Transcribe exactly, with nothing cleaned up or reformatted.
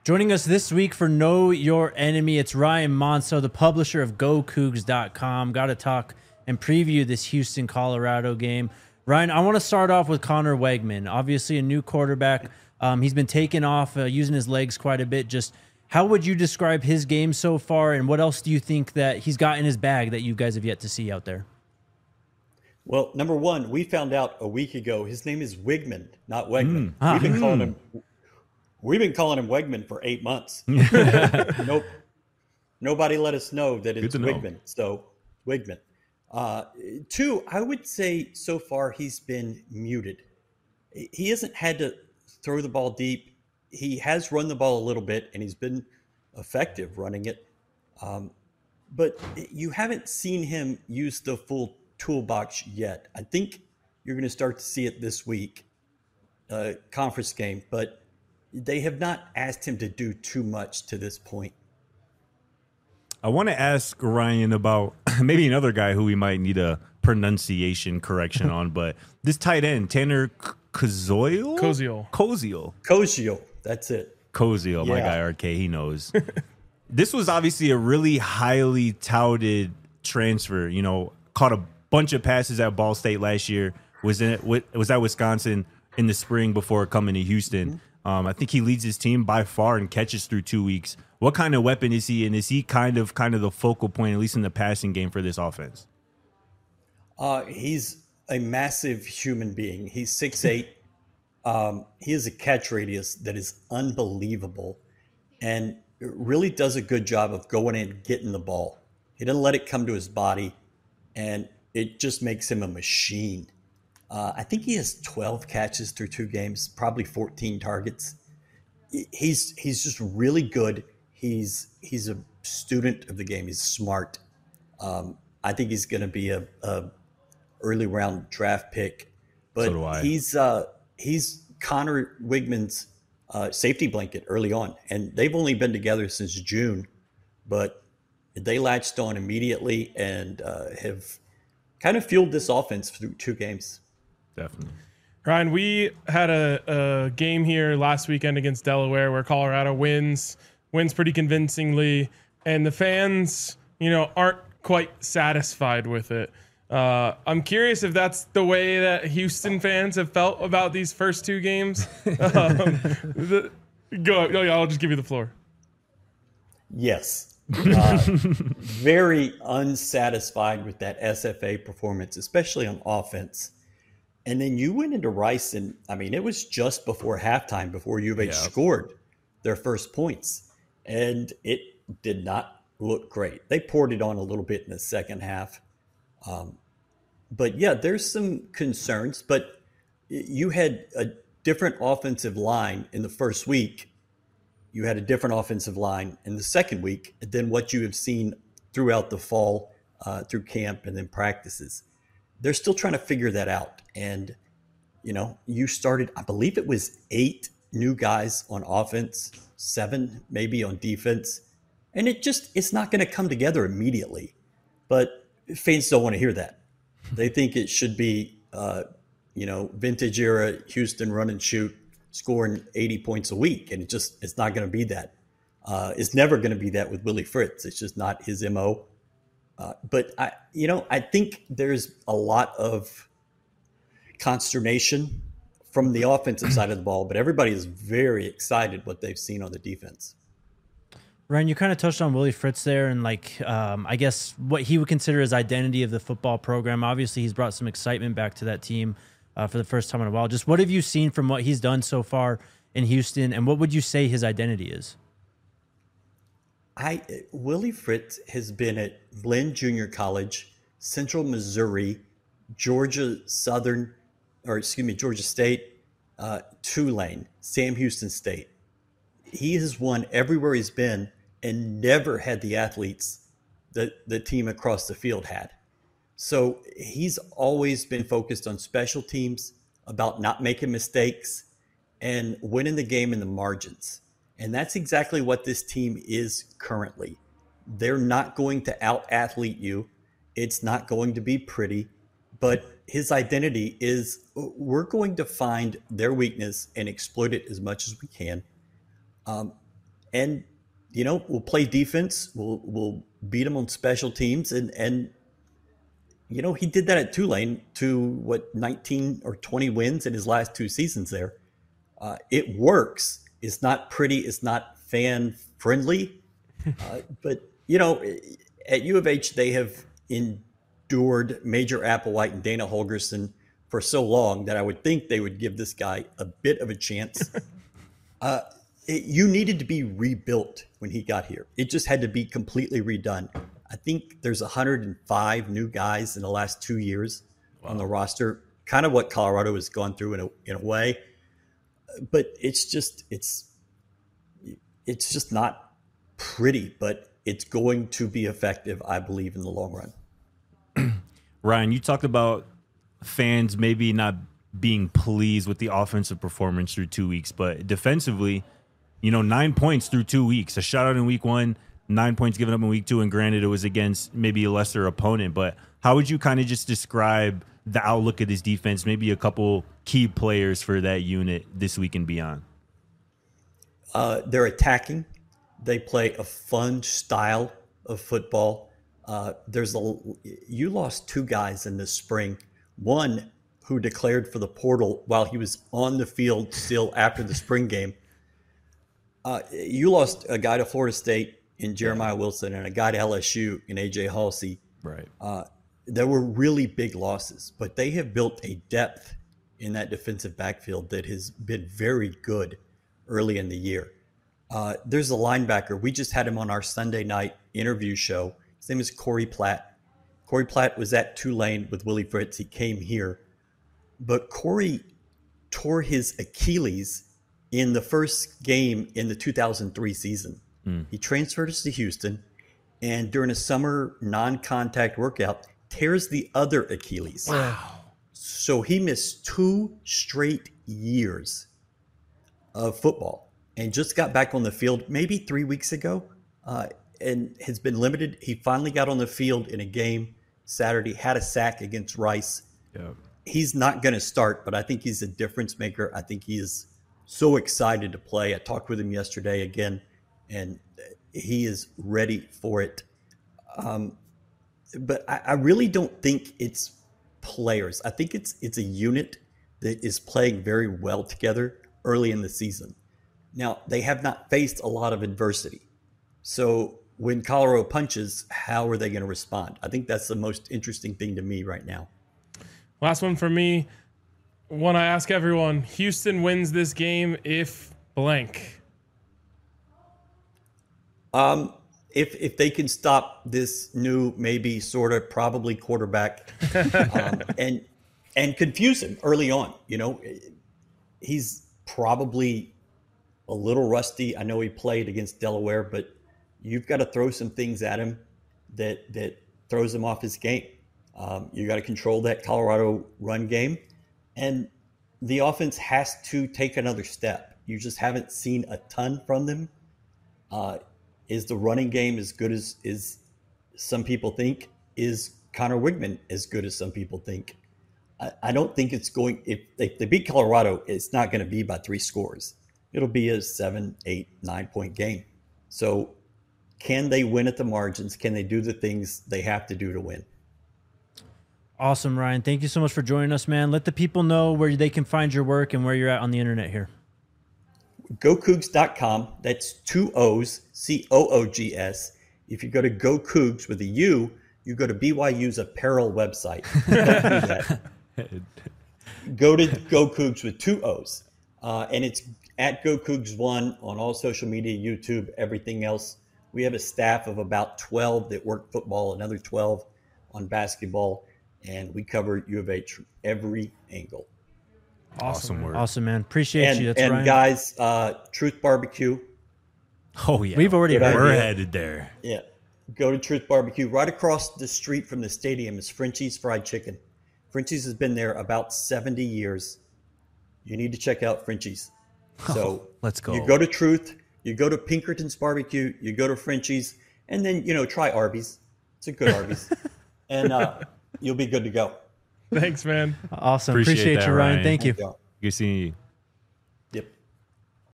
Joining us this week for Know Your Enemy, it's Ryan Monso, the publisher of Go Cougs dot com. Got to talk and preview this Houston, Colorado game. Ryan, I want to start off with Connor Wegman. Obviously a new quarterback. Um, he's been taking off, uh, using his legs quite a bit. Just how would you describe his game so far, and what else do you think that he's got in his bag that you guys have yet to see out there? Well, number one, we found out a week ago his name is Wigman, not Wegman. Mm. Ah. We've been calling him we've been calling him Wegman for eight months. Nope. Nobody let us know that it's Wigman. Know. So Wigman. Uh, two, I would say so far he's been muted. He hasn't had to throw the ball deep. He has run the ball a little bit, and he's been effective running it. Um, but you haven't seen him use the full toolbox yet. I think you're going to start to see it this week, uh, conference game, but they have not asked him to do too much to this point. I want to ask Ryan about maybe another guy who we might need a pronunciation correction on, but this tight end, Tanner Koziol? Koziol. Koziol. Koziol. That's it. Koziol, my Yeah. guy R K, he knows. This was obviously a really highly touted transfer, you know, caught a bunch of passes at Ball State last year, was in was at Wisconsin in the spring before coming to Houston. Mm-hmm. Um, I think he leads his team by far in catches through two weeks. What kind of weapon is he, and is he kind of kind of the focal point, at least in the passing game, for this offense? Uh, he's a massive human being. He's six eight. um, he has a catch radius that is unbelievable, and really does a good job of going in and getting the ball. He doesn't let it come to his body, and it just makes him a machine. Uh, I think he has twelve catches through two games, probably fourteen targets. He's he's just really good. He's he's a student of the game. He's smart. Um, I think he's going to be a, a early round draft pick. But So do I. he's uh, he's Connor Wigman's uh, safety blanket early on, and they've only been together since June, but they latched on immediately and uh, have kind of fueled this offense through two games. Definitely. Ryan, we had a, a game here last weekend against Delaware where Colorado wins, wins pretty convincingly, and the fans, you know, aren't quite satisfied with it. Uh, I'm curious if that's the way that Houston fans have felt about these first two games. um, the, go, oh, yeah, I'll just give you the floor. Yes. Uh, very unsatisfied with that S F A performance, especially on offense. And then you went into Rice, and I mean, it was just before halftime, before U of H Yeah. scored their first points, and it did not look great. They poured it on a little bit in the second half. Um, but yeah, there's some concerns, but you had a different offensive line in the first week. You had a different offensive line in the second week than what you have seen throughout the fall, uh, through camp and then practices. They're still trying to figure that out. And, you know, you started, I believe it was eight new guys on offense, seven maybe on defense. And it just, it's not going to come together immediately. But fans don't want to hear that. They think it should be, uh, you know, vintage era Houston run and shoot, scoring eighty points a week. And it just, it's not going to be that. Uh, it's never going to be that with Willie Fritz. It's just not his M O. Uh, but, I, you know, I think there's a lot of consternation from the offensive side of the ball, but everybody is very excited what they've seen on the defense. Ryan, you kind of touched on Willie Fritz there, and like um, I guess what he would consider his identity of the football program. Obviously, he's brought some excitement back to that team uh, for the first time in a while. Just what have you seen from what he's done so far in Houston, and what would you say his identity is? I Willie Fritz has been at Glenn Junior College, Central Missouri, Georgia Southern, or excuse me, Georgia State, uh, Tulane, Sam Houston State. He has won everywhere he's been and never had the athletes that the team across the field had. So he's always been focused on special teams, about not making mistakes, and winning the game in the margins. And that's exactly what this team is currently. They're not going to out-athlete you. It's not going to be pretty. But his identity is we're going to find their weakness and exploit it as much as we can. Um, and you know, we'll play defense. We'll we'll beat them on special teams, and and you know, he did that at Tulane to what nineteen or twenty wins in his last two seasons there. Uh, it works. It's not pretty. It's not fan friendly, uh, but you know, at U of H they have endured Major Applewhite and Dana Holgerson for so long that I would think they would give this guy a bit of a chance. uh, It, you needed to be rebuilt when he got here. It just had to be completely redone. I think there's one hundred five new guys in the last two years wow. on the roster, kind of what Colorado has gone through in a, in a way. But it's just it's it's just not pretty, but it's going to be effective, I believe, in the long run. Ryan, you talked about fans maybe not being pleased with the offensive performance through two weeks, but defensively, you know, nine points through two weeks, a shutout in week one, nine points given up in week two. And granted, it was against maybe a lesser opponent, but how would you kind of just describe the outlook of this defense, maybe a couple key players for that unit this week and beyond? Uh, they're attacking. They play a fun style of football. Uh, there's a, you lost two guys in the spring, one who declared for the portal while he was on the field still after the spring game. Uh, you lost a guy to Florida State in Jeremiah Wilson and a guy to L S U in A J Halsey. Right. Uh, there were really big losses, but they have built a depth in that defensive backfield that has been very good early in the year. Uh, there's a linebacker. We just had him on our Sunday night interview show. His name is Corey Platt. Corey Platt was at Tulane with Willie Fritz. He came here. But Corey tore his Achilles in the first game in the two thousand three season. Mm. He transferred us to Houston, and during a summer non-contact workout, tears the other Achilles. Wow. So he missed two straight years of football and just got back on the field maybe three weeks ago uh, and has been limited. He finally got on the field in a game Saturday, had a sack against Rice. Yeah. He's not going to start, but I think he's a difference maker. I think he is so excited to play. I talked with him yesterday again, and he is ready for it. Um, but I, I really don't think it's players. I think it's it's a unit that is playing very well together early in the season. Now, they have not faced a lot of adversity. So when Colorado punches, how are they going to respond? I think that's the most interesting thing to me right now. Last one for me. When I ask everyone, Houston wins this game if blank. Um, if if they can stop this new, maybe sort of probably quarterback, um, and and confuse him early on, you know, he's probably a little rusty. I know he played against Delaware, but you've got to throw some things at him that that throws him off his game. Um, you got to control that Colorado run game. And the offense has to take another step. You just haven't seen a ton from them. Uh, is the running game as good as, as some people think? Is Connor Wigman as good as some people think? I, I don't think it's going – if if they beat Colorado, it's not going to be by three scores. It'll be a seven, eight, nine-point game. So can they win at the margins? Can they do the things they have to do to win? Awesome, Ryan. Thank you so much for joining us, man. Let the people know where they can find your work and where you're at on the internet here. go cougs dot com. That's two O's, C O O G S. If you go to Go Cougs with a U, you go to B Y U's apparel website. Don't do that. Go to Go Cougs with two O's. Uh, and it's at Go Cougs one on all social media, YouTube, everything else. We have a staff of about twelve that work football, another twelve on basketball. And we cover U of H from every angle. Awesome work. Awesome, man. Appreciate and, you. That's and Ryan. guys, uh, Truth Barbecue. Oh, yeah. We've already heard We're it. headed there. Yeah. Go to Truth Barbecue. Right across the street from the stadium is Frenchie's Fried Chicken. Frenchie's has been there about seventy years. You need to check out Frenchie's. So oh, let's go. You go to Truth, you go to Pinkerton's Barbecue, you go to Frenchie's, and then, you know, try Arby's. It's a good Arby's. and uh, you'll be good to go. Thanks, man. Awesome. Appreciate Appreciate, that, you, Ryan. Ryan. Thank you. Thank you. Good seeing you.